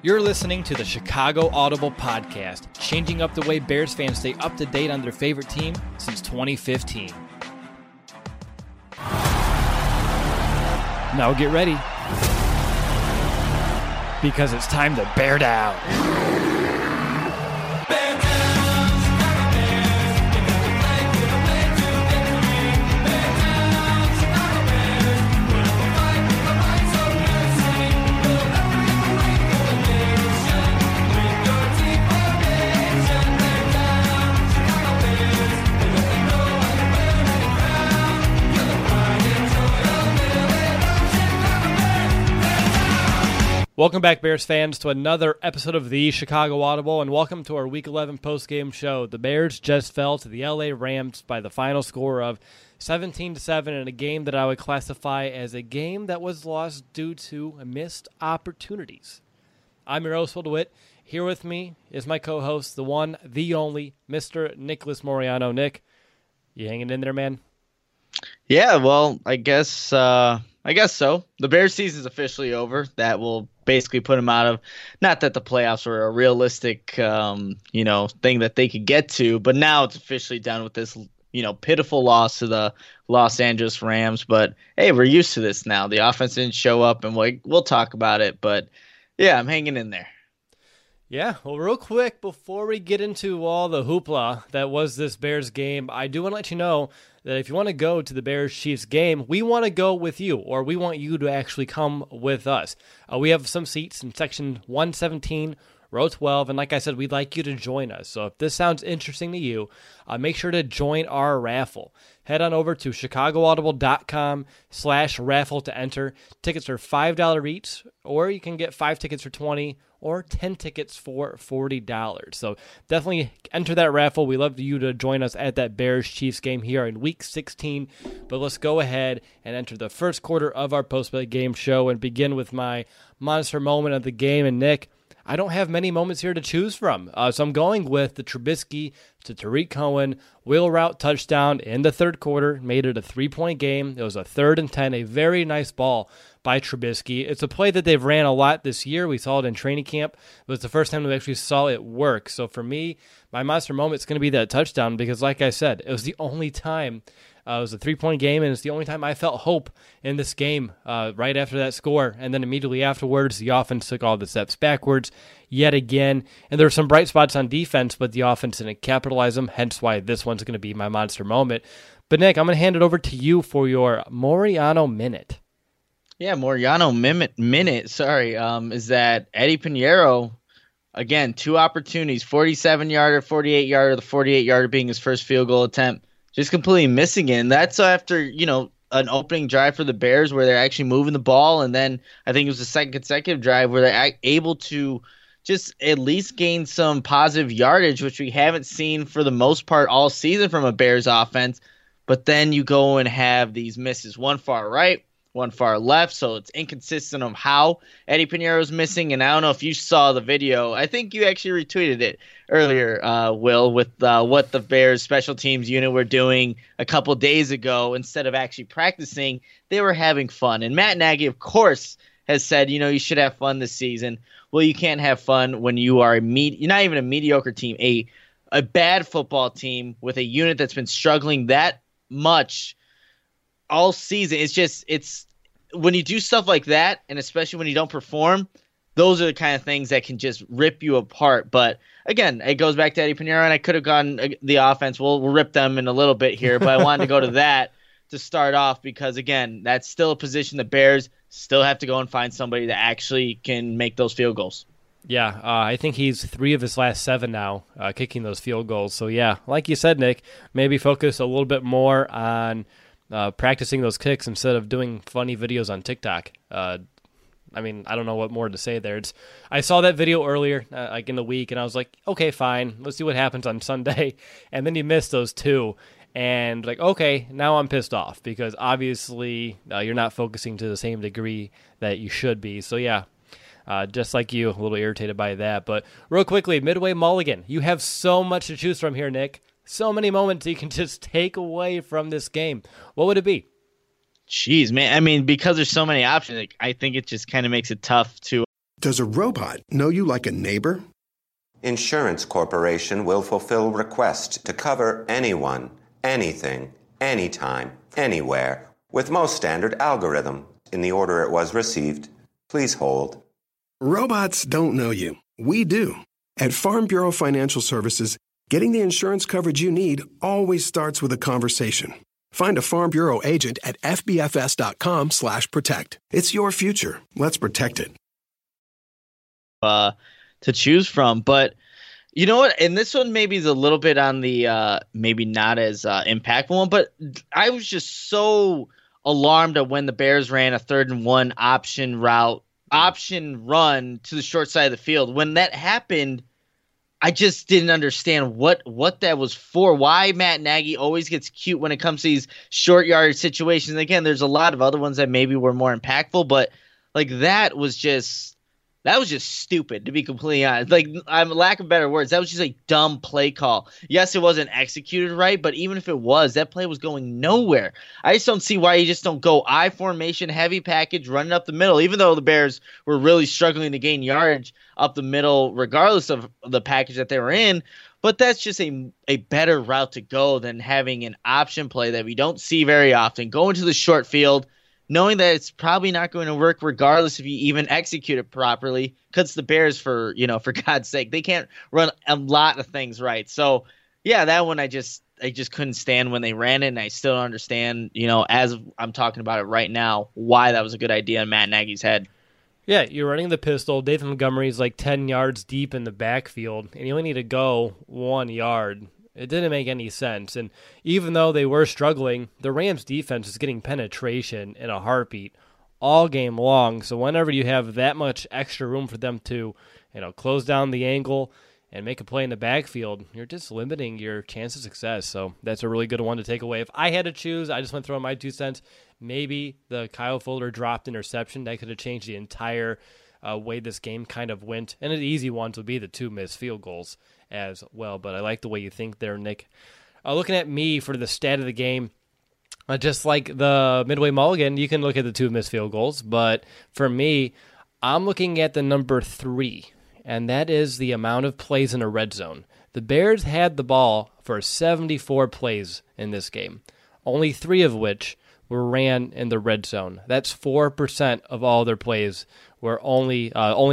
You're listening to the Chicago Audible Podcast, changing up the way Bears fans stay up to date on their favorite team since 2015. Now get ready, because it's time to bear down. Welcome back, Bears fans, to another episode of the Chicago Audible, and welcome to our Week 11 postgame show. The Bears just fell to the LA Rams by the final score of 17-7 in a game that I would classify as a game that was lost due to missed opportunities. I'm your host, Will DeWitt. Here with me is my co-host, the one, the only, Mr. Nicholas Moriano. Nick, you hanging in there, man? Yeah, well, I guess so. The Bears season's officially over. That will basically put them out of, not that the playoffs were a realistic, thing that they could get to, but now it's officially done with this, pitiful loss to the Los Angeles Rams. But hey, we're used to this now. The offense didn't show up, and we'll talk about it. But yeah, I'm hanging in there. Yeah, well, real quick, before we get into all the hoopla that was this Bears game, I do want to let you know that if you want to go to the Bears-Chiefs game, we want to go with you, or we want you to actually come with us. We have some seats in section 117, row 12, and like I said, we'd like you to join us. So if this sounds interesting to you, make sure to join our raffle. Head on over to chicagoaudible.com/raffle to enter. Tickets are $5 each, or you can get 5 tickets for $20 or 10 tickets for $40. So definitely enter that raffle. We love you to join us at that Bears-Chiefs game here in Week 16. But let's go ahead and enter the first quarter of our post-game show and begin with my monster moment of the game. And Nick, I don't have many moments here to choose from, so I'm going with the Trubisky to Tariq Cohen wheel route touchdown in the third quarter. Made it a 3-point game. It was a 3rd and 10, a very nice ball by Trubisky. It's a play that they've ran a lot this year. We saw it in training camp. It was the first time we actually saw it work. So for me, my monster moment is going to be that touchdown because, like I said, it was the only time. It was a 3-point game, and it's the only time I felt hope in this game right after that score. And then immediately afterwards, the offense took all the steps backwards yet again. And there were some bright spots on defense, but the offense didn't capitalize them, hence why this one's going to be my monster moment. But, Nick, I'm going to hand it over to you for your Moriano Minute. Yeah, Moriano minute, is that Eddie Piñeiro, again, 2 opportunities, 47-yarder, 48-yarder, the 48-yarder being his first field goal attempt. Just completely missing it. And that's after, an opening drive for the Bears where they're actually moving the ball. And then I think it was the second consecutive drive where they're able to just at least gain some positive yardage, which we haven't seen for the most part all season from a Bears offense. But then you go and have these misses, one far right, one far left, so it's inconsistent of how Eddie Piñeiro is missing. And I don't know if you saw the video. I think you actually retweeted it earlier, Will, with what the Bears special teams unit were doing a couple days ago. Instead of actually practicing, they were having fun. And Matt Nagy, of course, has said, you should have fun this season. Well, you can't have fun when you are you're not even a mediocre team, a bad football team with a unit that's been struggling that much all season. It's when you do stuff like that, and especially when you don't perform, those are the kind of things that can just rip you apart. But again, it goes back to Eddie Piñeiro, and I could have gone the offense. We'll rip them in a little bit here, but I wanted to go to that to start off because, again, that's still a position the Bears still have to go and find somebody that actually can make those field goals. Yeah, I think he's 3 of his last 7 now, kicking those field goals. So, yeah, like you said, Nick, maybe focus a little bit more on practicing those kicks instead of doing funny videos on TikTok. I don't know what more to say there. I saw that video earlier, like in the week, and I was like, okay, fine. Let's see what happens on Sunday. And then you missed those 2. And okay, now I'm pissed off because obviously you're not focusing to the same degree that you should be. So, yeah, just like you, a little irritated by that. But real quickly, Midway Mulligan. You have so much to choose from here, Nick. So many moments you can just take away from this game. What would it be? Jeez, man. I mean, because there's so many options, I think it just kind of makes it tough to Does a robot know you like a neighbor? Insurance Corporation will fulfill requests to cover anyone, anything, anytime, anywhere, with most standard algorithm in the order it was received. Please hold. Robots don't know you. We do. At Farm Bureau Financial Services, getting the insurance coverage you need always starts with a conversation. Find a Farm Bureau agent at fbfs.com/protect. It's your future. Let's protect it. To choose from, but you know what? And this one maybe is a little bit on the maybe not as impactful one, but I was just so alarmed at when the Bears ran a 3rd-and-1 option run to the short side of the field. When that happened, I just didn't understand what that was for. Why Matt Nagy always gets cute when it comes to these short yardage situations. Again, there's a lot of other ones that maybe were more impactful, but like that was just stupid, to be completely honest. Like, I'm lack of better words, that was just a dumb play call. Yes, it wasn't executed right, but even if it was, that play was going nowhere. I just don't see why you just don't go I formation, heavy package, running up the middle, even though the Bears were really struggling to gain yardage up the middle, regardless of the package that they were in. But that's just a better route to go than having an option play that we don't see very often. Go into the short field, knowing that it's probably not going to work regardless if you even execute it properly, because the Bears, for God's sake, they can't run a lot of things right. So, yeah, that one I just couldn't stand when they ran it, and I still don't understand, as I'm talking about it right now, why that was a good idea in Matt Nagy's head. Yeah, you're running the pistol. David Montgomery's like 10 yards deep in the backfield, and you only need to go 1 yard. It didn't make any sense. And even though they were struggling, the Rams defense is getting penetration in a heartbeat all game long. So whenever you have that much extra room for them to, close down the angle and make a play in the backfield, you're just limiting your chance of success. So that's a really good one to take away. If I had to choose, I just want to throw in my 2 cents. Maybe the Kyle Fuller dropped interception. That could have changed the entire way this game kind of went. And an easy one would be the 2 missed field goals as well. But I like the way you think there, Nick. Looking at me for the stat of the game, just like the Midway Mulligan, you can look at the 2 missed field goals. But for me, I'm looking at the number 3, and that is the amount of plays in a red zone. The Bears had the ball for 74 plays in this game, only 3 of which were ran in the red zone. That's 4% of all their plays were only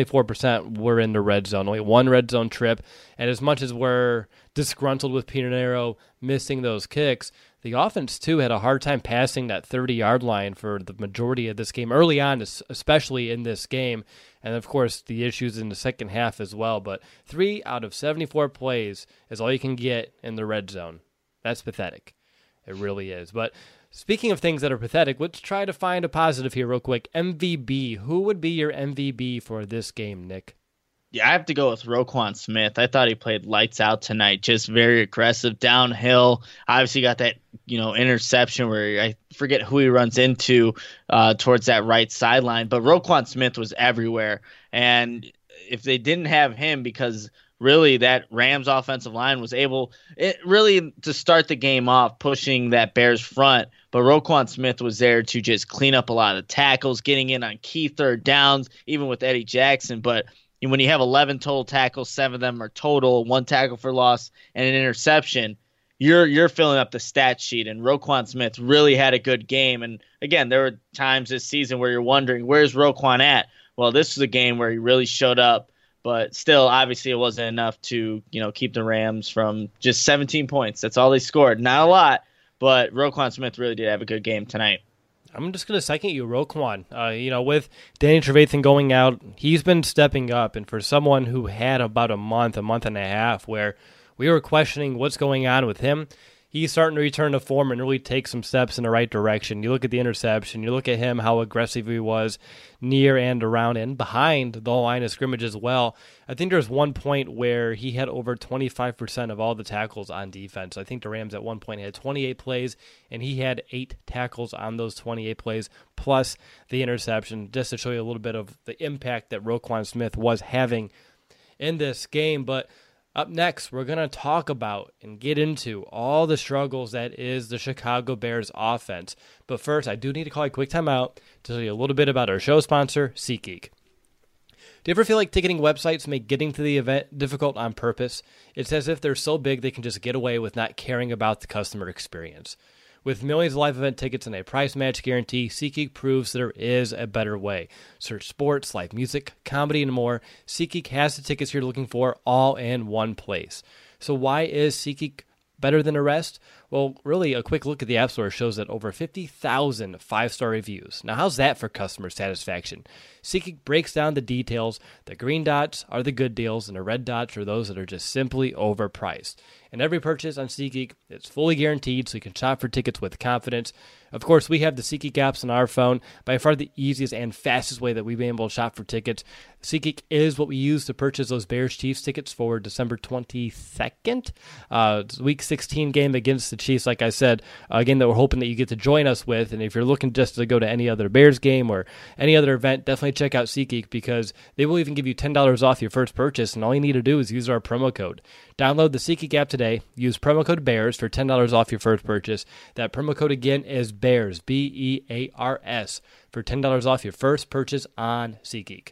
4% were in the red zone. Only 1 red zone trip. And as much as we're disgruntled with Pinheiro missing those kicks, the offense, too, had a hard time passing that 30-yard line for the majority of this game, early on, especially in this game. And, of course, the issues in the second half as well. But 3 out of 74 plays is all you can get in the red zone. That's pathetic. It really is. But speaking of things that are pathetic, let's try to find a positive here real quick. MVP. Who would be your MVP for this game, Nick? Yeah, I have to go with Roquan Smith. I thought he played lights out tonight. Just very aggressive downhill. Obviously got that, interception where I forget who he runs into towards that right sideline. But Roquan Smith was everywhere. And if they didn't have him, because really that Rams offensive line was able really to start the game off pushing that Bears front. But Roquan Smith was there to just clean up a lot of tackles, getting in on key third downs, even with Eddie Jackson. But when you have 11 total tackles, 7 of them are total, 1 tackle for loss, and an interception, you're filling up the stat sheet. And Roquan Smith really had a good game. And again, there were times this season where you're wondering, where's Roquan at? Well, this was a game where he really showed up. But still, obviously, it wasn't enough to keep the Rams from just 17 points. That's all they scored. Not a lot, but Roquan Smith really did have a good game tonight. I'm just going to second you, Roquan. With Danny Trevathan going out, he's been stepping up. And for someone who had about a month and a half, where we were questioning what's going on with him, he's starting to return to form and really take some steps in the right direction. You look at the interception, you look at him, how aggressive he was near and around and behind the line of scrimmage as well. I think there's one point where he had over 25% of all the tackles on defense. I think the Rams at one point had 28 plays, and he had 8 tackles on those 28 plays, plus the interception, just to show you a little bit of the impact that Roquan Smith was having in this game. But up next, we're going to talk about and get into all the struggles that is the Chicago Bears offense. But first, I do need to call a quick timeout to tell you a little bit about our show sponsor, SeatGeek. Do you ever feel like ticketing websites make getting to the event difficult on purpose? It's as if they're so big they can just get away with not caring about the customer experience. With millions of live event tickets and a price match guarantee, SeatGeek proves there is a better way. Search sports, live music, comedy, and more. SeatGeek has the tickets you're looking for all in one place. So why is SeatGeek better than the rest? Well, really, a quick look at the App Store shows that over 50,000 five-star reviews. Now, how's that for customer satisfaction? SeatGeek breaks down the details. The green dots are the good deals, and the red dots are those that are just simply overpriced. And every purchase on SeatGeek is fully guaranteed, so you can shop for tickets with confidence. Of course, we have the SeatGeek apps on our phone, by far the easiest and fastest way that we've been able to shop for tickets. SeatGeek is what we use to purchase those Bears-Chiefs tickets for December 22nd, Week 16 game against the Chiefs, like I said, a game that we're hoping that you get to join us with. And if you're looking just to go to any other Bears game or any other event, definitely check out SeatGeek, because they will even give you $10 off your first purchase, and all you need to do is use our promo code. Download the SeatGeek app today. Use promo code BEARS for $10 off your first purchase. That promo code again is BEARS, BEARS, for $10 off your first purchase on SeatGeek.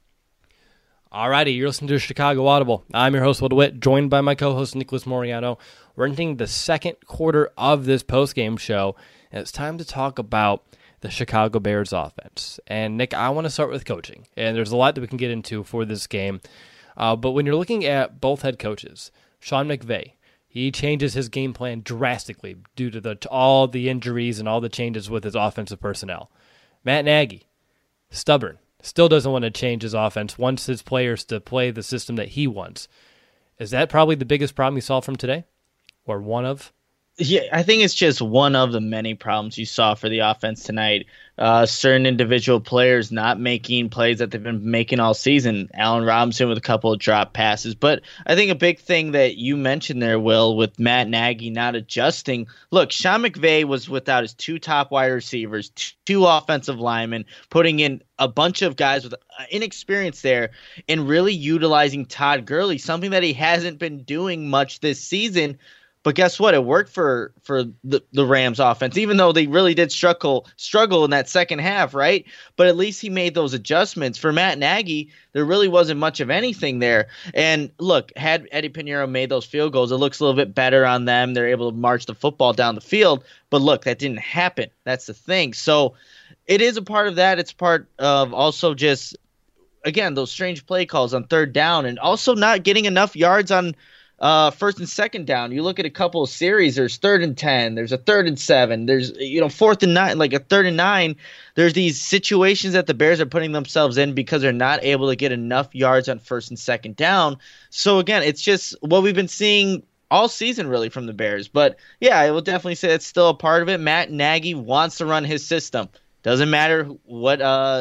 Alrighty, you're listening to Chicago Audible. I'm your host, Will DeWitt, joined by my co-host, Nicholas Moriano. We're entering the second quarter of this postgame show, and it's time to talk about the Chicago Bears offense. And, Nick, I want to start with coaching, and there's a lot that we can get into for this game. But when you're looking at both head coaches, Sean McVay, he changes his game plan drastically due to all the injuries and all the changes with his offensive personnel. Matt Nagy, stubborn, still doesn't want to change his offense, wants his players to play the system that he wants. Is that probably the biggest problem you saw from today? Or one of? Yeah, I think it's just one of the many problems you saw for the offense tonight. Certain individual players not making plays that they've been making all season. Allen Robinson with a couple of drop passes. But I think a big thing that you mentioned there, Will, with Matt Nagy not adjusting. Look, Sean McVay was without his two top wide receivers, two offensive linemen, putting in a bunch of guys with inexperience there, and really utilizing Todd Gurley, something that he hasn't been doing much this season. But guess what? It worked for the Rams offense, even though they really did struggle in that second half, right? But at least he made those adjustments. For Matt Nagy, there really wasn't much of anything there. And look, had Eddie Pinheiro made those field goals, it looks a little bit better on them. They're able to march the football down the field. But look, that didn't happen. That's the thing. So it is a part of that. It's part of also just, again, those strange play calls on third down, and also not getting enough yards on first and second down. You look at a couple of series, there's 3rd and 10, there's a 3rd and 7, there's 4th and 9, like a 3rd and 9. There's these situations that the Bears are putting themselves in because they're not able to get enough yards on first and second down. So again, it's just what we've been seeing all season really from the Bears. But yeah, I will definitely say it's still a part of it. Matt Nagy wants to run his system. Doesn't matter what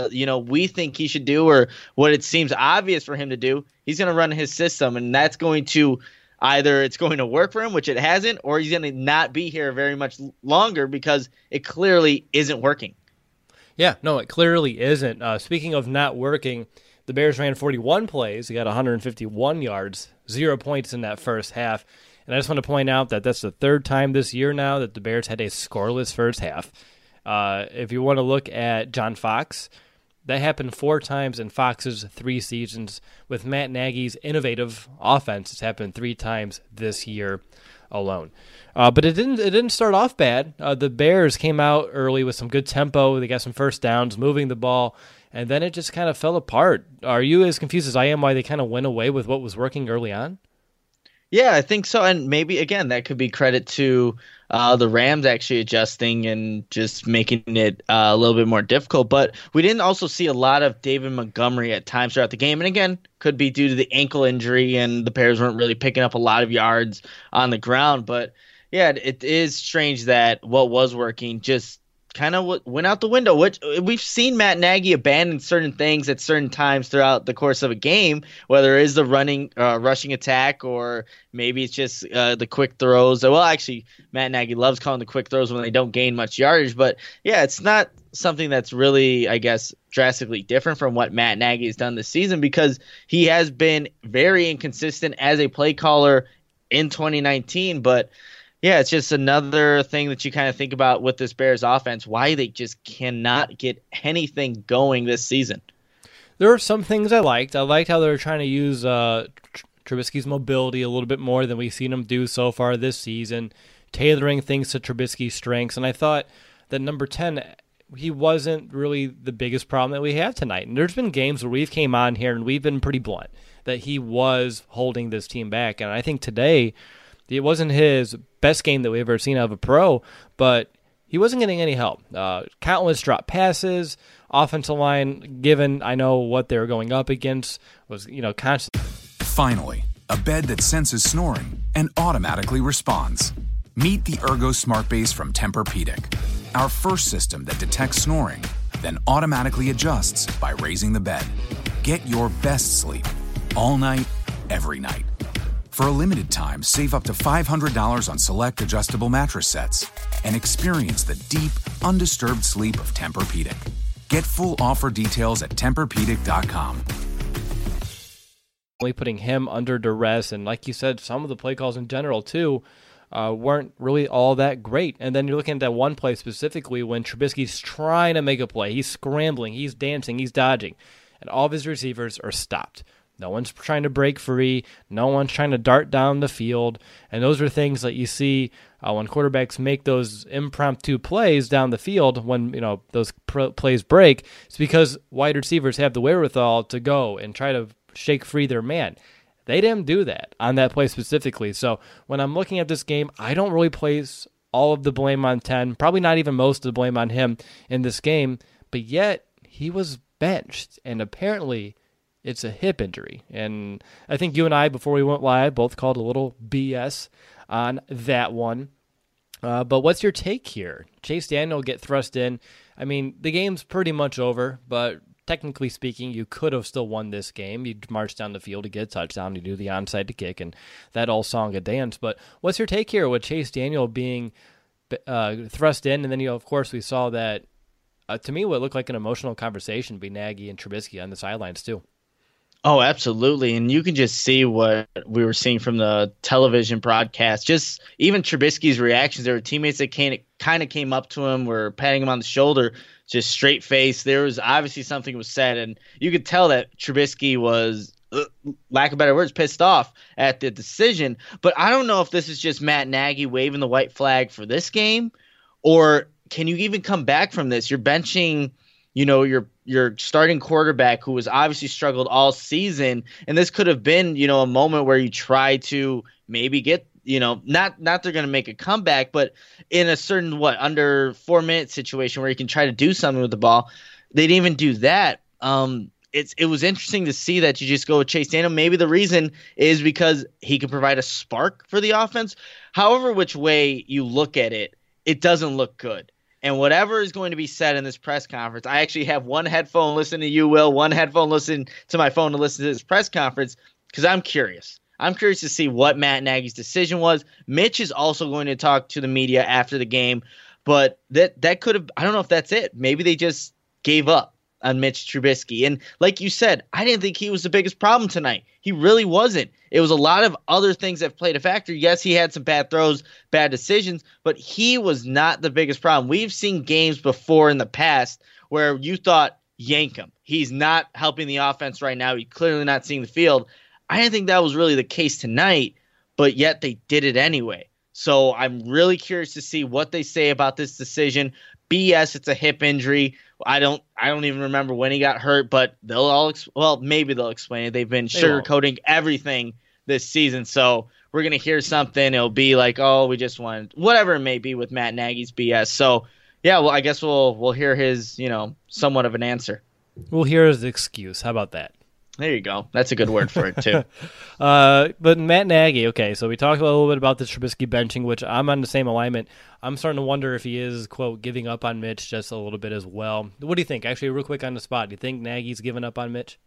we think he should do or what it seems obvious for him to do. He's going to run his system, and that's going to either it's going to work for him, which it hasn't, or he's going to not be here very much longer because it clearly isn't working. Yeah, no, it clearly isn't. Speaking of not working, the Bears ran 41 plays. He got 151 yards, 0 points in that first half. And I just want to point out that that's the third time this year now that the Bears had a scoreless first half. If you want to look at John Fox, that happened 4 times in Fox's 3 seasons. With Matt Nagy's innovative offense, it's happened 3 times this year alone. But it didn't start off bad. The Bears came out early with some good tempo. They got some first downs, moving the ball, and then it just kind of fell apart. Are you as confused as I am why they kind of went away with what was working early on? Yeah, I think so. And maybe, again, that could be credit to the Rams actually adjusting and just making it a little bit more difficult. But we didn't also see a lot of David Montgomery at times throughout the game. And again, could be due to the ankle injury and the Bears weren't really picking up a lot of yards on the ground. But yeah, it is strange that what was working just kind of went out the window, which we've seen Matt Nagy abandon certain things at certain times throughout the course of a game, whether it is the rushing attack or maybe it's just the quick throws. Well, actually, Matt Nagy loves calling the quick throws when they don't gain much yardage. But yeah, it's not something that's really, I guess, drastically different from what Matt Nagy has done this season because he has been very inconsistent as a play caller in 2019. But yeah, it's just another thing that you kind of think about with this Bears offense, why they just cannot get anything going this season. There are some things I liked. I liked how they were trying to use Trubisky's mobility a little bit more than we've seen him do so far this season, tailoring things to Trubisky's strengths. And I thought that number 10, he wasn't really the biggest problem that we have tonight. And there's been games where we've came on here and we've been pretty blunt that he was holding this team back. And I think today it wasn't his best game that we've ever seen out of a pro, but he wasn't getting any help. Countless drop passes, offensive line, given I know what they were going up against, was constant. Finally, a bed that senses snoring and automatically responds. Meet the Ergo Smart Base from Tempur-Pedic, our first system that detects snoring, then automatically adjusts by raising the bed. Get your best sleep all night, every night. For a limited time, save up to $500 on select adjustable mattress sets and experience the deep, undisturbed sleep of Tempur-Pedic. Get full offer details at TempurPedic.com. Putting him under duress, and like you said, some of the play calls in general too weren't really all that great. And then you're looking at that one play specifically when Trubisky's trying to make a play. He's scrambling, he's dancing, he's dodging, and all of his receivers are stopped. No one's trying to break free. No one's trying to dart down the field. And those are things that you see when quarterbacks make those impromptu plays down the field when those plays break. It's because wide receivers have the wherewithal to go and try to shake free their man. They didn't do that on that play specifically. So when I'm looking at this game, I don't really place all of the blame on 10, probably not even most of the blame on him in this game, but yet he was benched, and apparently it's a hip injury. And I think you and I, before we went live, both called a little BS on that one. But what's your take here? Chase Daniel get thrust in. I mean, the game's pretty much over, but technically speaking, you could have still won this game. You march down the field to get a touchdown, you do the onside to kick, and that all song and dance. But what's your take here with Chase Daniel being thrust in? And then, of course, we saw that, to me, what looked like an emotional conversation between Nagy and Trubisky on the sidelines, too. Oh, absolutely. And you can just see what we were seeing from the television broadcast. Just even Trubisky's reactions. There were teammates that kind of came up to him, were patting him on the shoulder, just straight face. There was obviously something was said, and you could tell that Trubisky was, lack of better words, pissed off at the decision. But I don't know if this is just Matt Nagy waving the white flag for this game, or can you even come back from this? You're benching your starting quarterback who has obviously struggled all season, and this could have been, a moment where you try to maybe get, not they're going to make a comeback, but in a certain, under 4-minute situation where you can try to do something with the ball. They didn't even do that. It was interesting to see that you just go with Chase Daniel. Maybe the reason is because he can provide a spark for the offense. However, which way you look at it, it doesn't look good. And whatever is going to be said in this press conference, I actually have one headphone listening to you, Will, one headphone listening to my phone to listen to this press conference because I'm curious. I'm curious to see what Matt Nagy's decision was. Mitch is also going to talk to the media after the game, but that could have – I don't know if that's it. Maybe they just gave up on Mitch Trubisky. And like you said, I didn't think he was the biggest problem tonight. He really wasn't. It was a lot of other things that played a factor. Yes, he had some bad throws, bad decisions, but he was not the biggest problem. We've seen games before in the past where you thought, yank him. He's not helping the offense right now. He's clearly not seeing the field. I didn't think that was really the case tonight, but yet they did it anyway. So I'm really curious to see what they say about this decision. BS, it's a hip injury. I don't even remember when he got hurt, but maybe they'll explain it. They've been sugarcoating everything this season, so we're gonna hear something. It'll be like, oh, we just wanted whatever it may be with Matt Nagy's BS. So yeah, well, I guess we'll hear his somewhat of an answer. We'll hear his excuse. How about that? There you go. That's a good word for it, too. But Matt Nagy, okay, so we talked a little bit about the Trubisky benching, which I'm on the same alignment. I'm starting to wonder if he is, quote, giving up on Mitch just a little bit as well. What do you think? Actually, real quick on the spot, do you think Nagy's giving up on Mitch?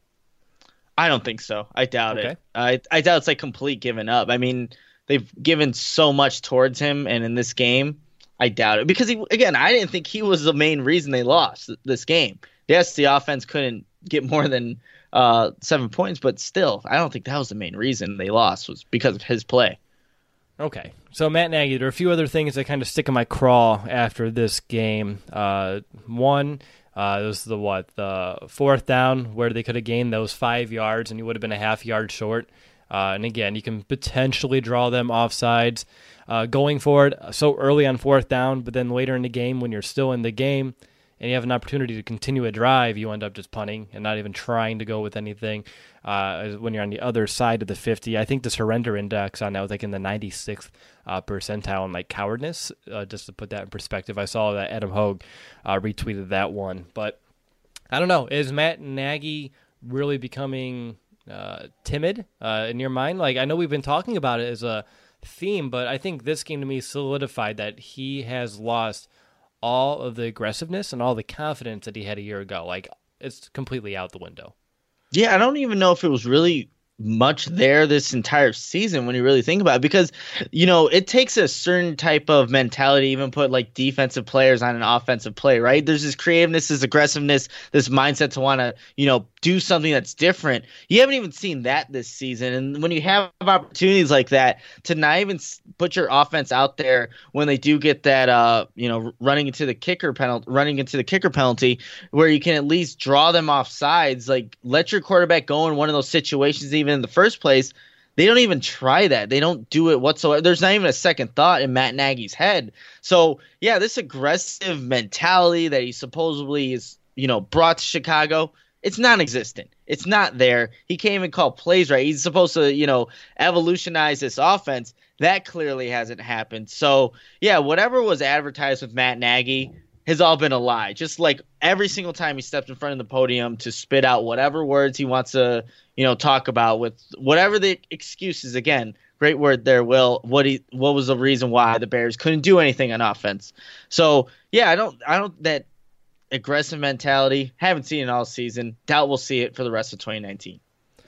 I don't think so. I doubt it. I doubt it's like complete giving up. I mean, they've given so much towards him, and in this game, I doubt it. Because, I didn't think he was the main reason they lost this game. Yes, the offense couldn't get more than 7 points, but still, I don't think that was the main reason they lost, was because of his play. Okay, so Matt Nagy, there are a few other things that kind of stick in my craw after this game. One, It was the fourth down where they could have gained those 5 yards and you would have been a half yard short. And again, you can potentially draw them offsides going forward so early on fourth down, but then later in the game when you're still in the game and you have an opportunity to continue a drive, you end up just punting and not even trying to go with anything when you're on the other side of the 50. I think the surrender index on that was like in the 96th percentile in like cowardness, just to put that in perspective. I saw that Adam Hogue retweeted that one. But I don't know, is Matt Nagy really becoming timid in your mind? Like, I know we've been talking about it as a theme, but I think this game to me solidified that he has lost all of the aggressiveness and all the confidence that he had a year ago. Like, it's completely out the window. Yeah, I don't even know if it was really much there this entire season when you really think about it, because it takes a certain type of mentality to even put like defensive players on an offensive play, right? There's this creativeness, this aggressiveness, this mindset to want to do something that's different. You haven't even seen that this season, and when you have opportunities like that to not even put your offense out there when they do get that running into the kicker penalty where you can at least draw them off sides, like let your quarterback go in one of those situations even in the first place. They don't even try that. They don't do it whatsoever. There's not even a second thought in Matt Nagy's head. So yeah, this aggressive mentality that he supposedly is brought to Chicago, it's non-existent. It's not there. He can't even call plays right. He's supposed to, evolutionize this offense. That clearly hasn't happened. So, yeah, whatever was advertised with Matt Nagy has all been a lie. Just like every single time he stepped in front of the podium to spit out whatever words he wants to, talk about with whatever the excuses. Again, great word there, Will. What was the reason why the Bears couldn't do anything on offense? So, yeah, I don't that aggressive mentality, haven't seen it all season. Doubt we'll see it for the rest of 2019.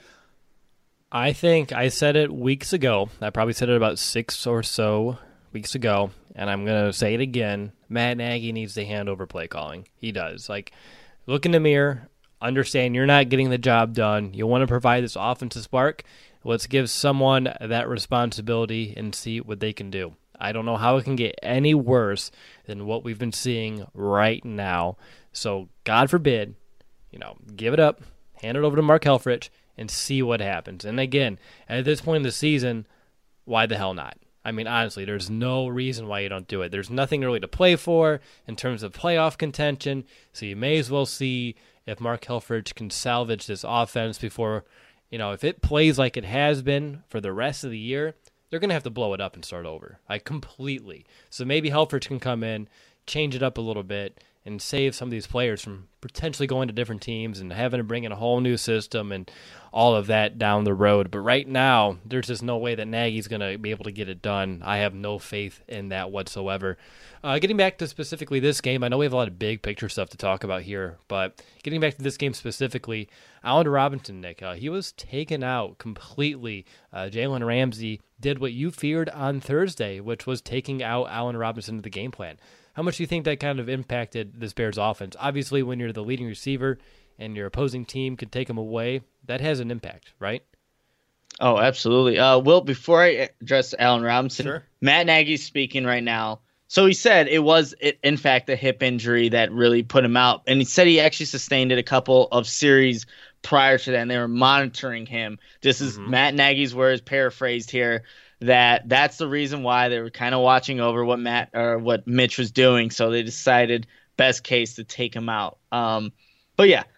I think I said it weeks ago. I probably said it about 6 or so weeks ago, and I'm going to say it again. Matt Nagy needs to hand over play calling. He does. Like, look in the mirror, understand you're not getting the job done. You want to provide this offensive spark. Let's give someone that responsibility and see what they can do. I don't know how it can get any worse than what we've been seeing right now. So, God forbid, give it up, hand it over to Mark Helfrich, and see what happens. And again, at this point in the season, why the hell not? I mean, honestly, there's no reason why you don't do it. There's nothing really to play for in terms of playoff contention, so you may as well see if Mark Helfrich can salvage this offense before, if it plays like it has been for the rest of the year, they're going to have to blow it up and start over, completely. So maybe Helfrich can come in, change it up a little bit, and save some of these players from potentially going to different teams and having to bring in a whole new system and all of that down the road. But right now, there's just no way that Nagy's going to be able to get it done. I have no faith in that whatsoever. Getting back to specifically this game, I know we have a lot of big picture stuff to talk about here, but getting back to this game specifically, Allen Robinson, Nick, he was taken out completely. Jalen Ramsey did what you feared on Thursday, which was taking out Allen Robinson to the game plan. How much do you think that kind of impacted this Bears offense? Obviously, when you're the leading receiver and your opposing team can take him away, that has an impact, right? Oh, absolutely. Will, before I address Allen Robinson, sure. Matt Nagy's speaking right now. So he said it was, in fact, a hip injury that really put him out. And he said he actually sustained it a couple of series prior to that, and they were monitoring him. This is Matt Nagy's words, paraphrased here, that's the reason why they were kind of watching over what Mitch was doing. So they decided best case to take him out. But yeah,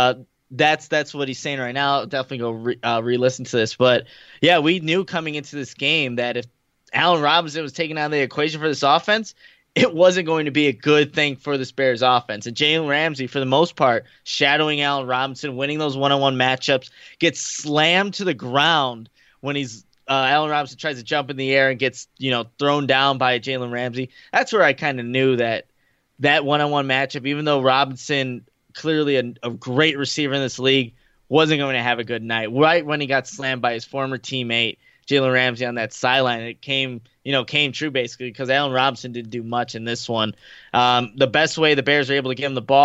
that's what he's saying right now. Definitely go re-listen to this. But yeah, we knew coming into this game that if Allen Robinson was taken out of the equation for this offense, it wasn't going to be a good thing for the Bears offense. And Jalen Ramsey, for the most part, shadowing Allen Robinson, winning those one-on-one matchups, gets slammed to the ground when Allen Robinson tries to jump in the air and gets thrown down by Jalen Ramsey. That's where I kind of knew that one-on-one matchup, even though Robinson, clearly a great receiver in this league, wasn't going to have a good night. Right when he got slammed by his former teammate, Jalen Ramsey, on that sideline, it came true basically because Allen Robinson didn't do much in this one. The best way the Bears were able to give him the ball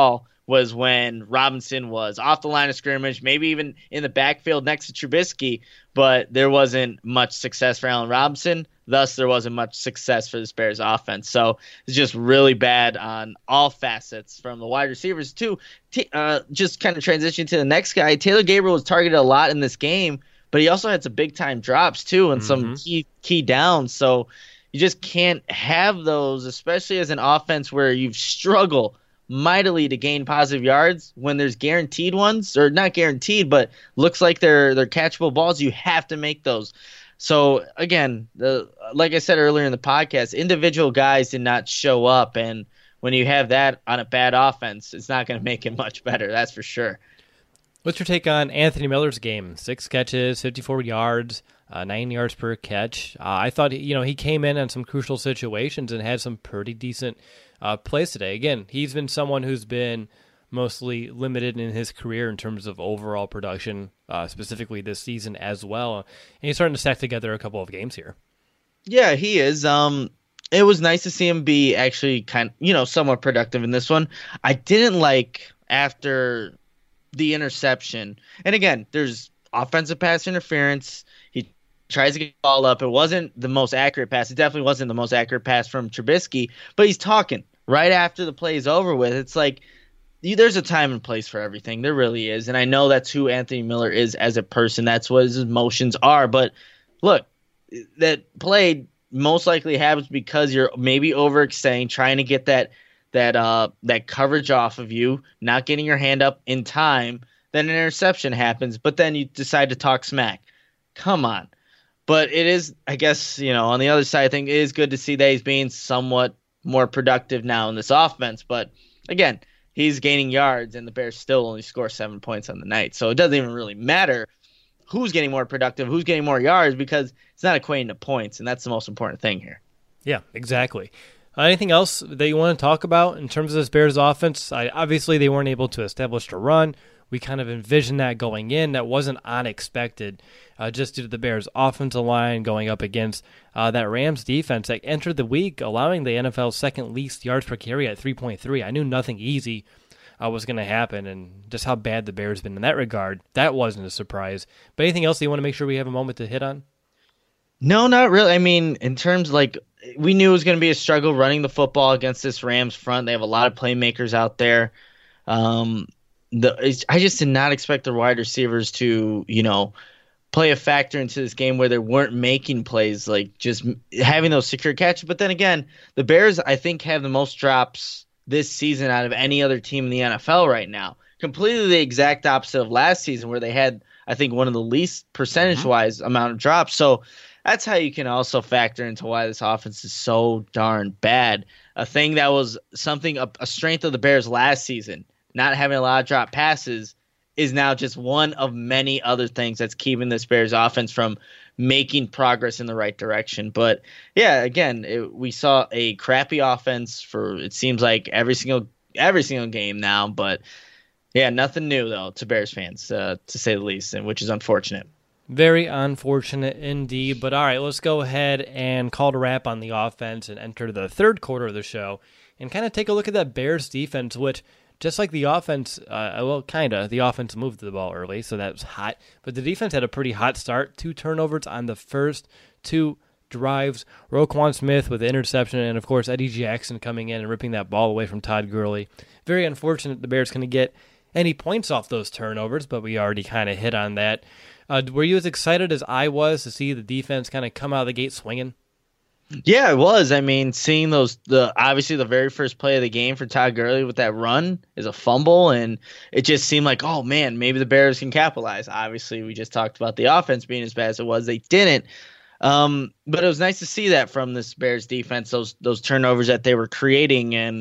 was when Robinson was off the line of scrimmage, maybe even in the backfield next to Trubisky, but there wasn't much success for Allen Robinson. Thus, there wasn't much success for this Bears offense. So it's just really bad on all facets from the wide receivers, too. Just kind of transitioning to the next guy, Taylor Gabriel was targeted a lot in this game, but he also had some big-time drops, too, and some key downs. So you just can't have those, especially as an offense where you've struggled mightily to gain positive yards when there's guaranteed ones, or not guaranteed, but looks like they're catchable balls. You have to make those. So again, like I said earlier in the podcast, individual guys did not show up, and when you have that on a bad offense, it's not going to make it much better. That's for sure. What's your take on Anthony Miller's game? 6 catches, 54 yards, 9 yards per catch. I thought he came in some crucial situations and had some pretty decent plays today. Again, he's been someone who's been mostly limited in his career in terms of overall production, specifically this season as well. And he's starting to stack together a couple of games here. Yeah, he is. It was nice to see him be actually somewhat productive in this one. I didn't like after the interception. And again, there's offensive pass interference. He tries to get the ball up. It wasn't the most accurate pass. It definitely wasn't the most accurate pass from Trubisky, but he's talking right after the play is over with. It's like, there's a time and place for everything. There really is. And I know that's who Anthony Miller is as a person. That's what his emotions are. But look, that play most likely happens because you're maybe overextending, trying to get that coverage off of you, not getting your hand up in time. Then an interception happens, but then you decide to talk smack. Come on. But it is, I guess, on the other side, I think it is good to see that he's being somewhat more productive now in this offense. But again, he's gaining yards, and the Bears still only score 7 points on the night. So it doesn't even really matter who's getting more productive, who's getting more yards, because it's not equating to points, and that's the most important thing here. Yeah, exactly. Anything else that you want to talk about in terms of this Bears offense? Obviously, they weren't able to establish a run. We kind of envisioned that going in. That wasn't unexpected, just due to the Bears' offensive line going up against that Rams defense that entered the week allowing the NFL's second least yards per carry at 3.3. I knew nothing easy was going to happen, and just how bad the Bears been in that regard, that wasn't a surprise. But anything else that you want to make sure we have a moment to hit on? No, not really. I mean, in terms we knew it was going to be a struggle running the football against this Rams front. They have a lot of playmakers out there. I just did not expect the wide receivers to, play a factor into this game where they weren't making plays, like just having those secure catches. But then again, the Bears, I think, have the most drops this season out of any other team in the NFL right now. Completely the exact opposite of last season, where they had, I think, one of the least percentage-wise amount of drops. So that's how you can also factor into why this offense is so darn bad. A thing that was a strength of the Bears last season, not having a lot of drop passes, is now just one of many other things that's keeping this Bears offense from making progress in the right direction. But yeah, again, we saw a crappy offense for, it seems like, every single game now. But yeah, nothing new though to Bears fans, to say the least, and which is unfortunate. Very unfortunate indeed. But all right, let's go ahead and call it a wrap on the offense and enter the third quarter of the show and kind of take a look at that Bears defense, which, just like the offense, the offense moved the ball early, so that was hot. But the defense had a pretty hot start. 2 turnovers on the first 2 drives. Roquan Smith with the interception, and, of course, Eddie Jackson coming in and ripping that ball away from Todd Gurley. Very unfortunate the Bears couldn't get any points off those turnovers, but we already kind of hit on that. Were you as excited as I was to see the defense kind of come out of the gate swinging? Yeah, it was. I mean, seeing obviously the very first play of the game for Todd Gurley with that run is a fumble, and it just seemed like, oh man, maybe the Bears can capitalize. Obviously, we just talked about the offense being as bad as it was. They didn't. But it was nice to see that from this Bears defense, those turnovers that they were creating, and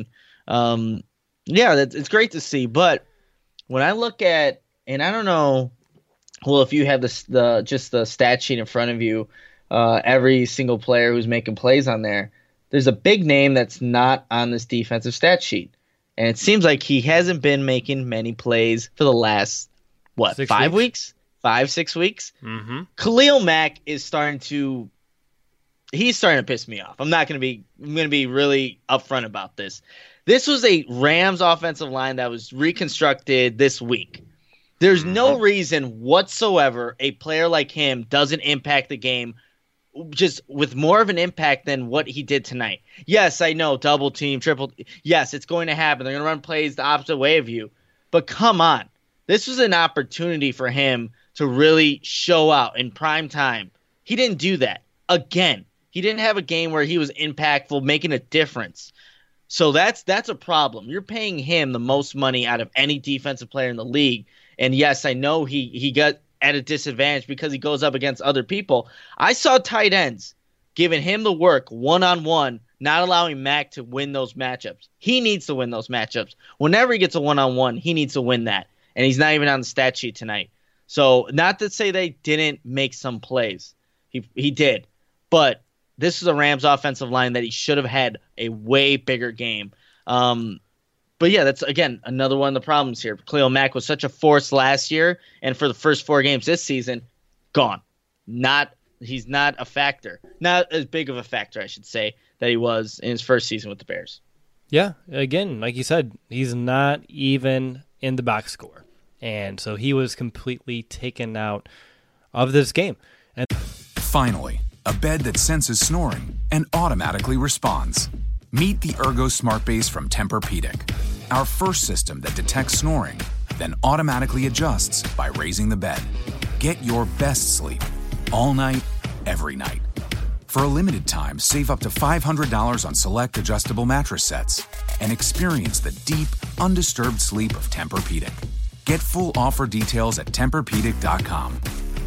it's great to see. But when I look at, and I don't know, well, if you have the stat sheet in front of you, every single player who's making plays on there's a big name that's not on this defensive stat sheet. And it seems like he hasn't been making many plays for the last, 5 weeks? 5-6 weeks? Mm-hmm. Khalil Mack is starting to piss me off. I'm going to be really upfront about this. This was a Rams offensive line that was reconstructed this week. There's no reason whatsoever a player like him doesn't impact the game just with more of an impact than what he did tonight. Yes, I know, double team, triple. Yes, it's going to happen. They're going to run plays the opposite way of you. But come on. This was an opportunity for him to really show out in prime time. He didn't do that. Again, he didn't have a game where he was impactful, making a difference. So that's a problem. You're paying him the most money out of any defensive player in the league. And yes, I know he got at a disadvantage because he goes up against other people. I saw tight ends giving him the work one-on-one, not allowing Mac to win those matchups. He needs to win those matchups. Whenever he gets a one-on-one, he needs to win that. And he's not even on the stat sheet tonight. So not to say they didn't make some plays. He did. But this is a Rams offensive line that he should have had a way bigger game. But yeah, that's, again, another one of the problems here. Khalil Mack was such a force last year, and for the first 4 games this season, gone. He's not a factor. Not as big of a factor, I should say, that he was in his first season with the Bears. Yeah, again, like you said, he's not even in the box score. And so he was completely taken out of this game. And finally, a bed that senses snoring and automatically responds. Meet the Ergo Smart Base from Tempur-Pedic, our first system that detects snoring, then automatically adjusts by raising the bed. Get your best sleep all night, every night. For a limited time, save up to $500 on select adjustable mattress sets and experience the deep, undisturbed sleep of Tempur-Pedic. Get full offer details at TempurPedic.com.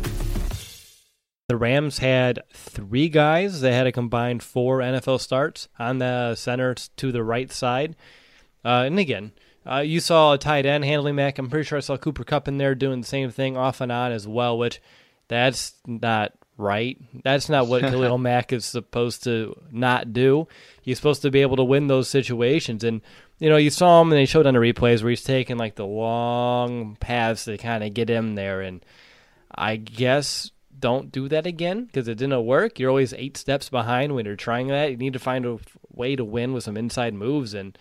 the Rams had 3 guys that had a combined 4 NFL starts on the center to the right side. And again, you saw a tight end handling Mac. I'm pretty sure I saw Cooper Kupp in there doing the same thing off and on as well, which that's not right. That's not what Khalil Mack is supposed to not do. He's supposed to be able to win those situations. And, you saw him, and they showed on the replays where he's taking, like, the long paths to kind of get him there. And I guess don't do that again because it didn't work. You're always 8 steps behind when you're trying that. You need to find a way to win with some inside moves. And,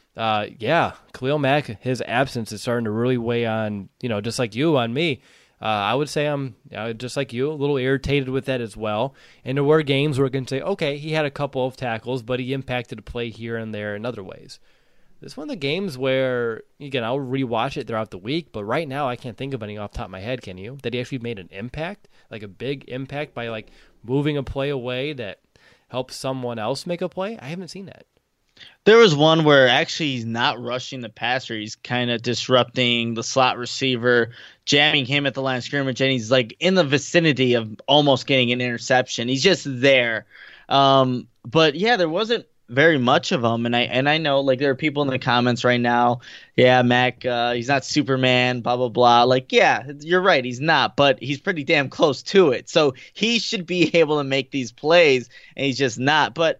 Khalil Mack, his absence is starting to really weigh on, just like you, on me. I would say I'm just like you, a little irritated with that as well. And there were games where we can say, okay, he had a couple of tackles, but he impacted a play here and there in other ways. This is one of the games where, again, I'll rewatch it throughout the week, but right now I can't think of any off the top of my head, can you? That he actually made an impact, like a big impact by like moving a play away that helps someone else make a play? I haven't seen that. There was one where actually he's not rushing the passer. He's kind of disrupting the slot receiver, jamming him at the line of scrimmage, and he's like in the vicinity of almost getting an interception. He's just there. But yeah, there wasn't very much of him. And I know like there are people in the comments right now. Yeah, Mac, he's not Superman, blah, blah, blah. Like, yeah, you're right. He's not, but he's pretty damn close to it. So he should be able to make these plays, and he's just not. But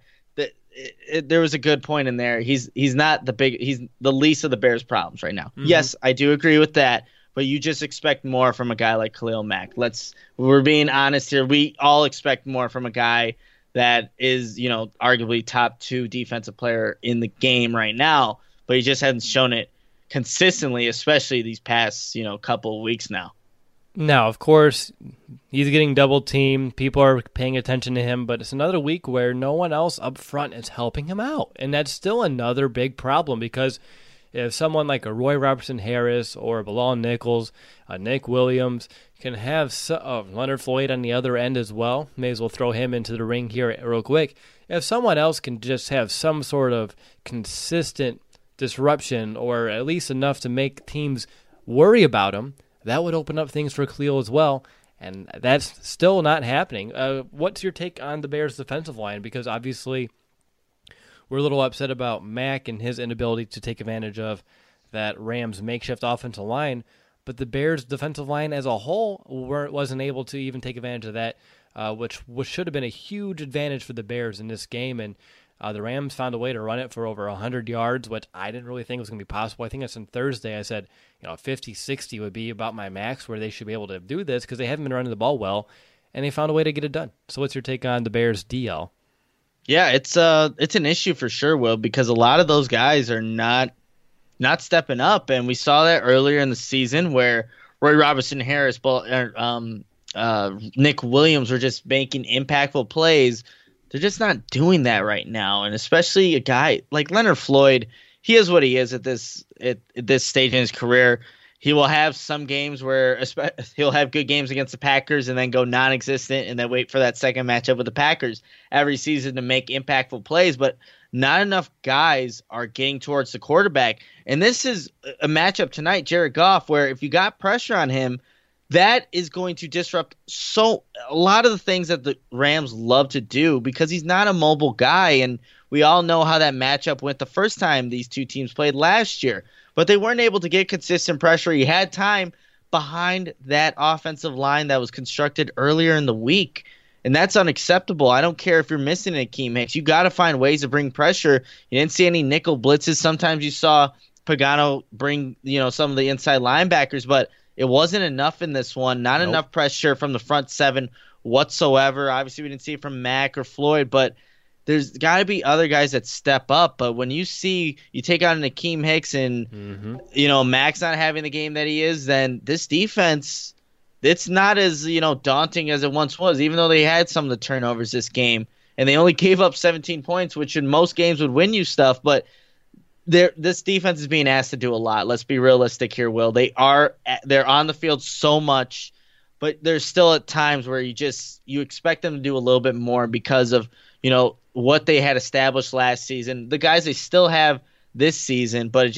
there was a good point in there. He's not he's the least of the Bears' problems right now. Mm-hmm. Yes, I do agree with that, but you just expect more from a guy like Khalil Mack. We're being honest here. We all expect more from a guy that is, arguably top 2 defensive player in the game right now, but he just hasn't shown it consistently, especially these past, couple of weeks now. Now, of course, he's getting double teamed. People are paying attention to him, but it's another week where no one else up front is helping him out. And that's still another big problem because if someone like a Roy Robertson Harris or a Bilal Nichols, Nick Williams can have Leonard Floyd on the other end as well, may as well throw him into the ring here real quick. If someone else can just have some sort of consistent disruption or at least enough to make teams worry about him, that would open up things for Khalil as well, and that's still not happening. What's your take on the Bears' defensive line? Because obviously we're a little upset about Mack and his inability to take advantage of that Rams makeshift offensive line, but the Bears' defensive line as a whole wasn't able to even take advantage of that, which should have been a huge advantage for the Bears in this game, and the Rams found a way to run it for over 100 yards, which I didn't really think was going to be possible. I think that's on Thursday. I said, 50, 60 would be about my max where they should be able to do this because they haven't been running the ball well, and they found a way to get it done. So what's your take on the Bears' DL? Yeah, it's an issue for sure, Will, because a lot of those guys are not stepping up, and we saw that earlier in the season where Roy Robertson Harris, Nick Williams were just making impactful plays. They're just not doing that right now, and especially a guy like Leonard Floyd. He is what he is at this stage in his career. He will have some games where he'll have good games against the Packers and then go non-existent and then wait for that second matchup with the Packers every season to make impactful plays. But not enough guys are getting towards the quarterback. And this is a matchup tonight, Jared Goff, where if you got pressure on him, that is going to disrupt a lot of the things that the Rams love to do because he's not a mobile guy. And we all know how that matchup went the first time these two teams played last year. But they weren't able to get consistent pressure. He had time behind that offensive line that was constructed earlier in the week. And that's unacceptable. I don't care if you're missing Akeem Hicks. You got to find ways to bring pressure. You didn't see any nickel blitzes. Sometimes you saw Pagano bring, some of the inside linebackers, but it wasn't enough in this one. Not enough pressure from the front seven whatsoever. Obviously, we didn't see it from Mack or Floyd, but there's got to be other guys that step up. But when you take on an Akeem Hicks and, Mack's not having the game that he is, then this defense, it's not as, daunting as it once was, even though they had some of the turnovers this game. And they only gave up 17 points, which in most games would win you stuff. But this defense is being asked to do a lot. Let's be realistic here, Will. They're on the field so much, but there's still at times where you expect them to do a little bit more because of, what they had established last season. The guys they still have this season, but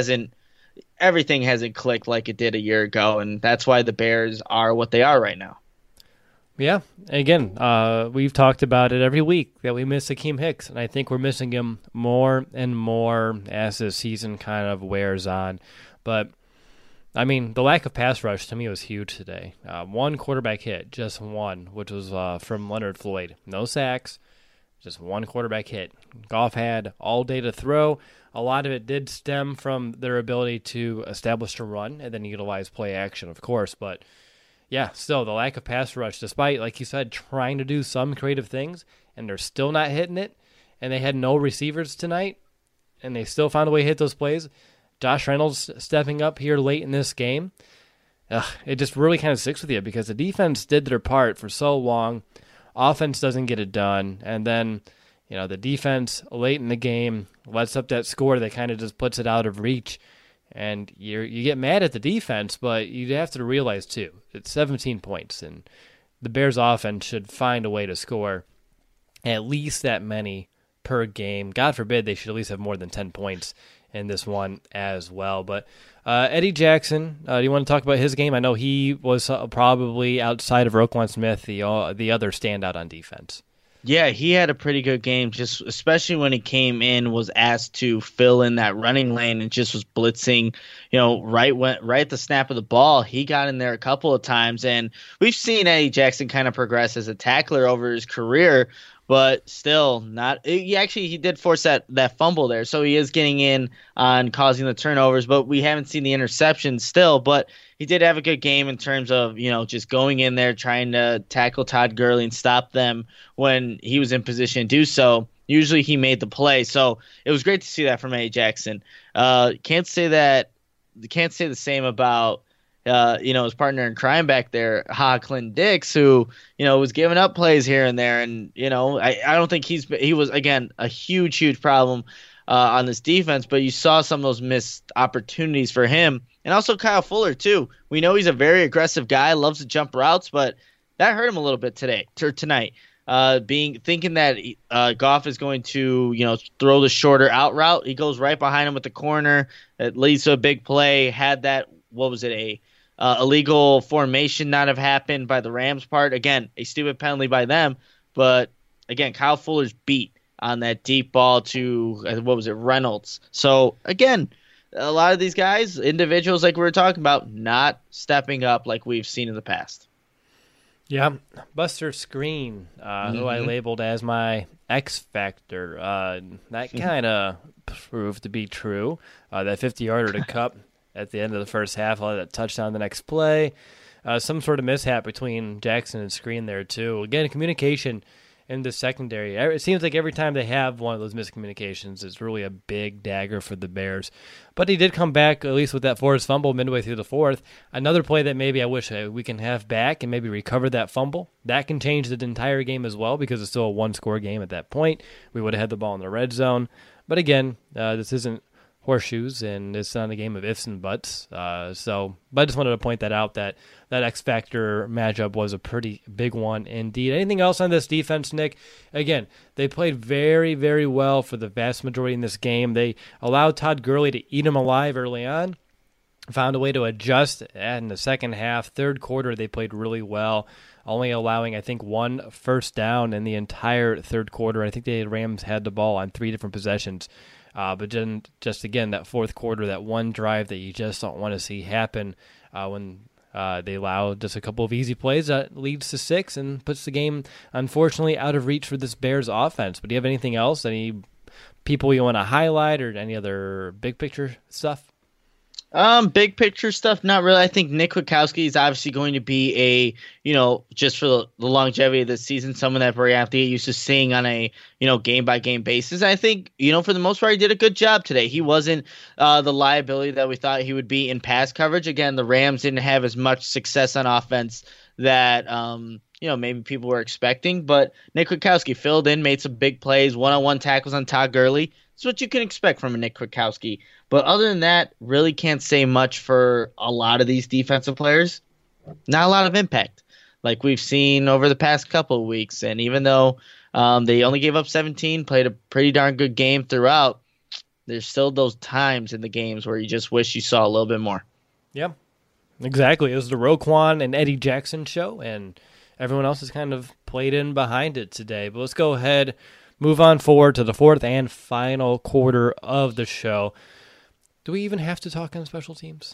everything hasn't clicked like it did a year ago, and that's why the Bears are what they are right now. Yeah, again, we've talked about it every week that we miss Akeem Hicks, and I think we're missing him more and more as the season kind of wears on. But, I mean, the lack of pass rush to me was huge today. One quarterback hit, just one, which was from Leonard Floyd. No sacks, just one quarterback hit. Goff had all day to throw. A lot of it did stem from their ability to establish a run and then utilize play action, of course, but yeah, still, the lack of pass rush, despite, like you said, trying to do some creative things, and they're still not hitting it, and they had no receivers tonight, and they still found a way to hit those plays. Josh Reynolds stepping up here late in this game, it just really kind of sticks with you because the defense did their part for so long. Offense doesn't get it done, and then the defense late in the game lets up that score that kind of just puts it out of reach. And you get mad at the defense, but you have to realize, too, it's 17 points, and the Bears' offense should find a way to score at least that many per game. God forbid they should at least have more than 10 points in this one as well. But Eddie Jackson, do you want to talk about his game? I know he was probably, outside of Roquan Smith, the other standout on defense. Yeah, he had a pretty good game, just especially when he came in, was asked to fill in that running lane and just was blitzing, right at the snap of the ball. He got in there a couple of times, and we've seen Eddie Jackson kind of progress as a tackler over his career, but still not. He did force that fumble there, so he is getting in on causing the turnovers, but we haven't seen the interception still. But he did have a good game in terms of, just going in there, trying to tackle Todd Gurley and stop them when he was in position to do so. Usually he made the play, so it was great to see that from Eddie Jackson. Can't say the same about his partner in crime back there, Clinton Dix, who, was giving up plays here and there. And, I don't think he was, again, a huge problem on this defense, but you saw some of those missed opportunities for him. And also Kyle Fuller, too. We know he's a very aggressive guy, loves to jump routes, but that hurt him a little bit tonight. Thinking that Goff is going to, throw the shorter out route. He goes right behind him with the corner. It leads to a big play. Had that, illegal formation not have happened by the Rams' part. Again, a stupid penalty by them. But, again, Kyle Fuller's beat on that deep ball to, Reynolds. So, again, a lot of these guys, individuals like we were talking about, not stepping up like we've seen in the past. Yeah, Buster Screen, who I labeled as my X Factor, that kind of proved to be true. That 50-yarder to Kupp at the end of the first half, that touchdown the next play. Some sort of mishap between Jackson and Screen there, too. Again, communication in the secondary. It seems like every time they have one of those miscommunications, it's really a big dagger for the Bears. But he did come back, at least with that forced fumble midway through the fourth. Another play that maybe I wish we can have back and maybe recover that fumble. That can change the entire game as well because it's still a one-score game at that point. We would have had the ball in the red zone. But again, this isn't horseshoes, and it's not a game of ifs and buts. But I just wanted to point that out, that X Factor matchup was a pretty big one indeed. Anything else on this defense, Nick? Again, they played very, very well for the vast majority in this game. They allowed Todd Gurley to eat him alive early on, found a way to adjust in the second half. Third quarter, they played really well, only allowing, I think, 1 first down in the entire third quarter. I think the Rams had the ball on 3 different possessions. But then, just again, that fourth quarter, that one drive that you just don't want to see happen when they allow just a couple of easy plays that leads to 6 and puts the game, unfortunately, out of reach for this Bears offense. But do you have anything else? Any people you want to highlight or any other big picture stuff? Big picture stuff, not really. I think Nick Kwiatkowski is obviously going to be just for the longevity of the season, someone that we're going to have to get used to seeing on a, game-by-game basis. I think, for the most part, he did a good job today. He wasn't the liability that we thought he would be in pass coverage. Again, the Rams didn't have as much success on offense that, maybe people were expecting. But Nick Kwiatkowski filled in, made some big plays, one-on-one tackles on Todd Gurley. It's what you can expect from a Nick Kwiatkowski. But other than that, really can't say much for a lot of these defensive players. Not a lot of impact like we've seen over the past couple of weeks. And even though they only gave up 17, played a pretty darn good game throughout, there's still those times in the games where you just wish you saw a little bit more. Yeah, exactly. It was the Roquan and Eddie Jackson show, and everyone else has kind of played in behind it today. But let's go ahead, move on forward to the fourth and final quarter of the show. Do we even have to talk on special teams?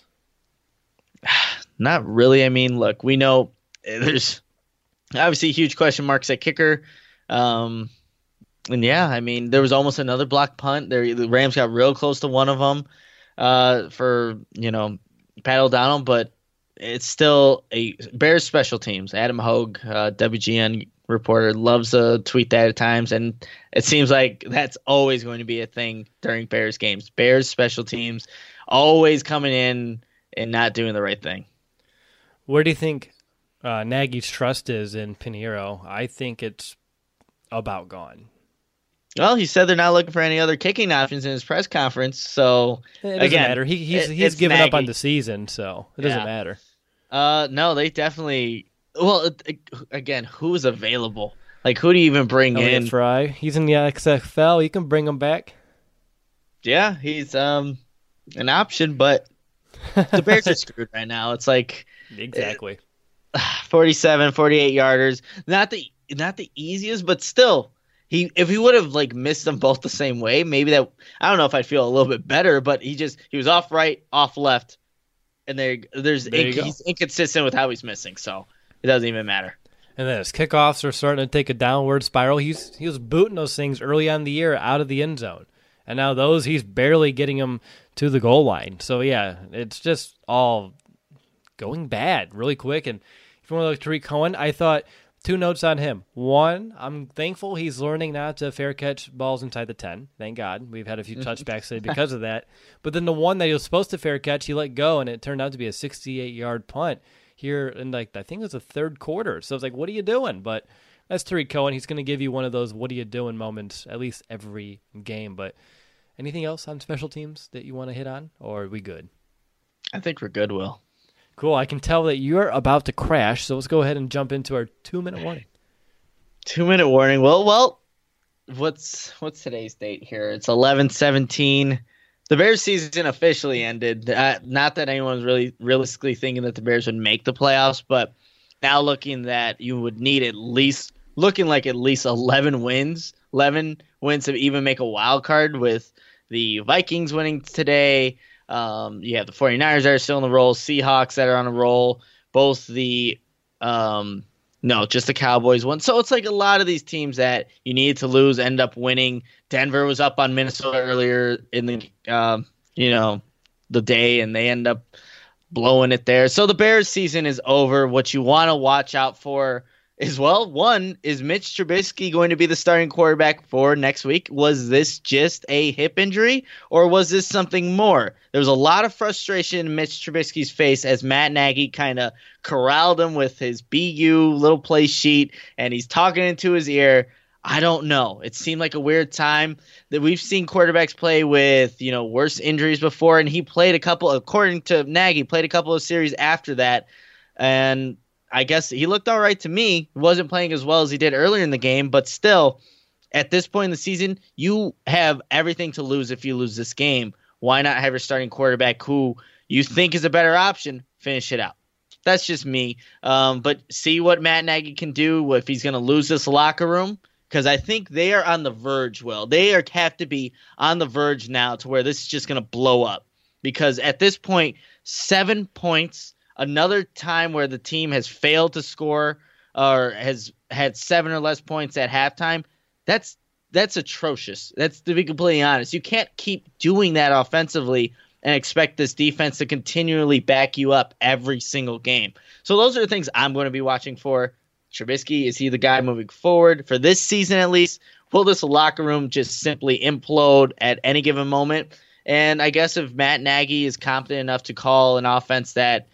Not really. I mean, look, we know there's obviously huge question marks at kicker. And yeah, I mean, there was almost another block punt. The Rams got real close to one of them for, Pat O'Donnell, but it's still a Bears special teams. Adam Hogue, WGN reporter, loves to tweet that at times, and it seems like that's always going to be a thing during Bears games. Bears special teams always coming in and not doing the right thing. Where do you think Nagy's trust is in Pinheiro? I think it's about gone. Well, he said they're not looking for any other kicking options in his press conference, so it doesn't matter. He's given up on the season, so it doesn't matter. No, they definitely. Well, again, who's available? Like, who do you even bring in? Fry. He's in the XFL. You can bring him back. Yeah, he's an option, but the Bears are screwed right now. It's like exactly 47, 48 yarders. Not the easiest, but still. If he would have missed them both the same way, maybe that, I don't know if I'd feel a little bit better, but he was off right, off left, and he's inconsistent with how he's missing, so it doesn't even matter. And then his kickoffs are starting to take a downward spiral. He was booting those things early on in the year out of the end zone, and now he's barely getting them to the goal line. So yeah, it's just all going bad really quick. And if you want to look at Tariq Cohen, I thought. 2 notes on him. One, I'm thankful he's learning not to fair catch balls inside the 10. Thank God. We've had a few touchbacks today because of that. But then the one that he was supposed to fair catch, he let go, and it turned out to be a 68-yard punt here in, I think it was the third quarter. So it's like, what are you doing? But that's Tariq Cohen. He's going to give you one of those what are you doing moments at least every game. But anything else on special teams that you want to hit on, or are we good? I think we're good, Will. Cool. I can tell that you're about to crash, so let's go ahead and jump into our 2-minute warning. 2-minute warning. Well, what's today's date here? It's 11/17. The Bears season officially ended. Not that anyone's really realistically thinking that the Bears would make the playoffs, but now looking that you would need at least 11 wins to even make a wild card, with the Vikings winning today. You have the 49ers that are still in the roll, Seahawks that are on a roll, both the just the Cowboys won. So it's like a lot of these teams that you needed to lose end up winning. Denver was up on Minnesota earlier in the the day, and they end up blowing it there. So the Bears season is over. What you want to watch out for is, well, one, is Mitch Trubisky going to be the starting quarterback for next week? Was this just a hip injury, or was this something more? There was a lot of frustration in Mitch Trubisky's face as Matt Nagy kind of corralled him with his BU little play sheet, and he's talking into his ear. I don't know. It seemed like a weird time. That we've seen quarterbacks play with, worse injuries before, and he played a couple, according to Nagy, played a couple of series after that, and I guess he looked all right to me. He wasn't playing as well as he did earlier in the game, but still, at this point in the season, you have everything to lose if you lose this game. Why not have your starting quarterback who you think is a better option finish it out? That's just me. But see what Matt Nagy can do if he's going to lose this locker room, because I think they are on the verge, Will. They have to be on the verge now to where this is just going to blow up, because at this point, 7 points, another time where the team has failed to score or has had 7 or less points at halftime, that's atrocious. That's, to be completely honest. You can't keep doing that offensively and expect this defense to continually back you up every single game. So those are the things I'm going to be watching for. Trubisky, is he the guy moving forward for this season at least? Will this locker room just simply implode at any given moment? And I guess if Matt Nagy is competent enough to call an offense that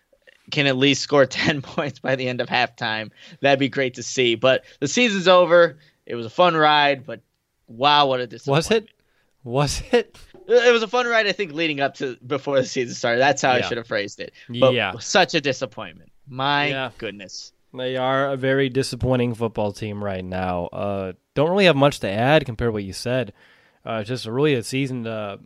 can at least score 10 points by the end of halftime, that'd be great to see. But the season's over. It was a fun ride, but wow, what a disappointment. Was it? It was a fun ride, I think, leading up to before the season started. That's how I should have phrased it. But such a disappointment. My goodness. They are a very disappointing football team right now. Don't really have much to add compared to what you said. Just really a season to,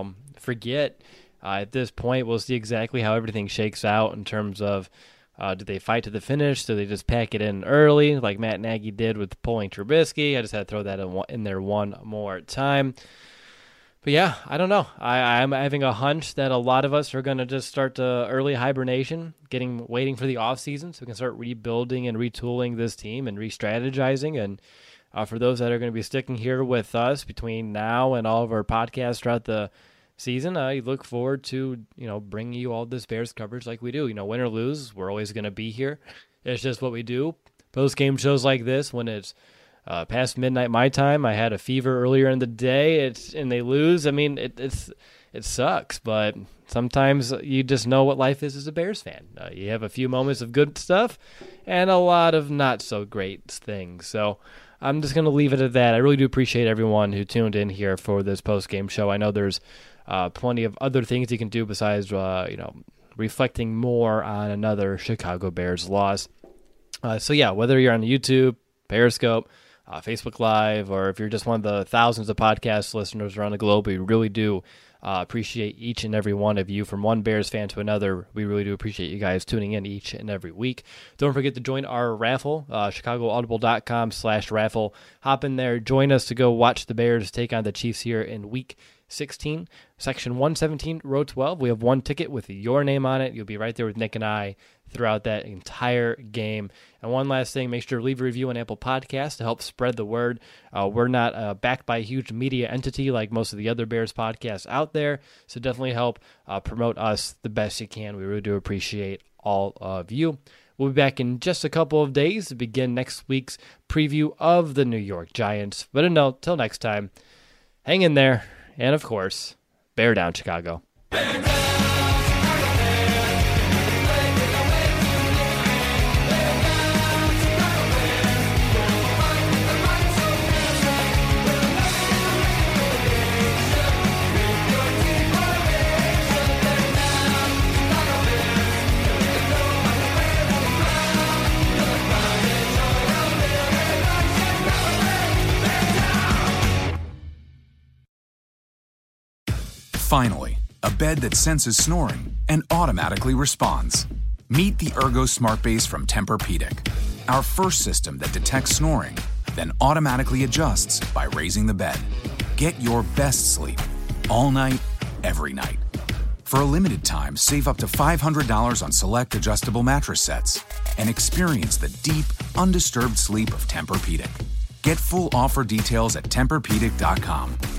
forget. At this point, we'll see exactly how everything shakes out in terms of do they fight to the finish? Do they just pack it in early like Matt Nagy did with pulling Trubisky? I just had to throw that in there one more time. But yeah, I don't know. I'm having a hunch that a lot of us are going to just start early hibernation, waiting for the offseason so we can start rebuilding and retooling this team and re-strategizing. And for those that are going to be sticking here with us between now and all of our podcasts throughout the season, I look forward to, bringing you all this Bears coverage like we do. Win or lose, we're always going to be here. It's just what we do. Post-game shows like this, when it's past midnight my time, I had a fever earlier in the day, and they lose. I mean, it sucks, but sometimes you just know what life is as a Bears fan. You have a few moments of good stuff and a lot of not so great things. So I'm just going to leave it at that. I really do appreciate everyone who tuned in here for this post-game show. I know there's plenty of other things you can do besides, reflecting more on another Chicago Bears loss. So yeah, whether you're on YouTube, Periscope, Facebook Live, or if you're just one of the thousands of podcast listeners around the globe, we really do appreciate each and every one of you. From one Bears fan to another, we really do appreciate you guys tuning in each and every week. Don't forget to join our raffle, chicagoaudible.com/raffle. Hop in there, join us to go watch the Bears take on the Chiefs here in Week 16, Section 117, Row 12. We have one ticket with your name on it. You'll be right there with Nick and I throughout that entire game. And one last thing, make sure to leave a review on Apple Podcasts to help spread the word. We're not backed by a huge media entity like most of the other Bears podcasts out there, so definitely help promote us the best you can. We really do appreciate all of you. We'll be back in just a couple of days to begin next week's preview of the New York Giants. But until next time, hang in there. And, of course, bear down, Chicago. Finally, a bed that senses snoring and automatically responds. Meet the Ergo Smart Base from Tempur-Pedic, our first system that detects snoring, then automatically adjusts by raising the bed. Get your best sleep all night, every night. For a limited time, save up to $500 on select adjustable mattress sets and experience the deep, undisturbed sleep of Tempur-Pedic. Get full offer details at TempurPedic.com.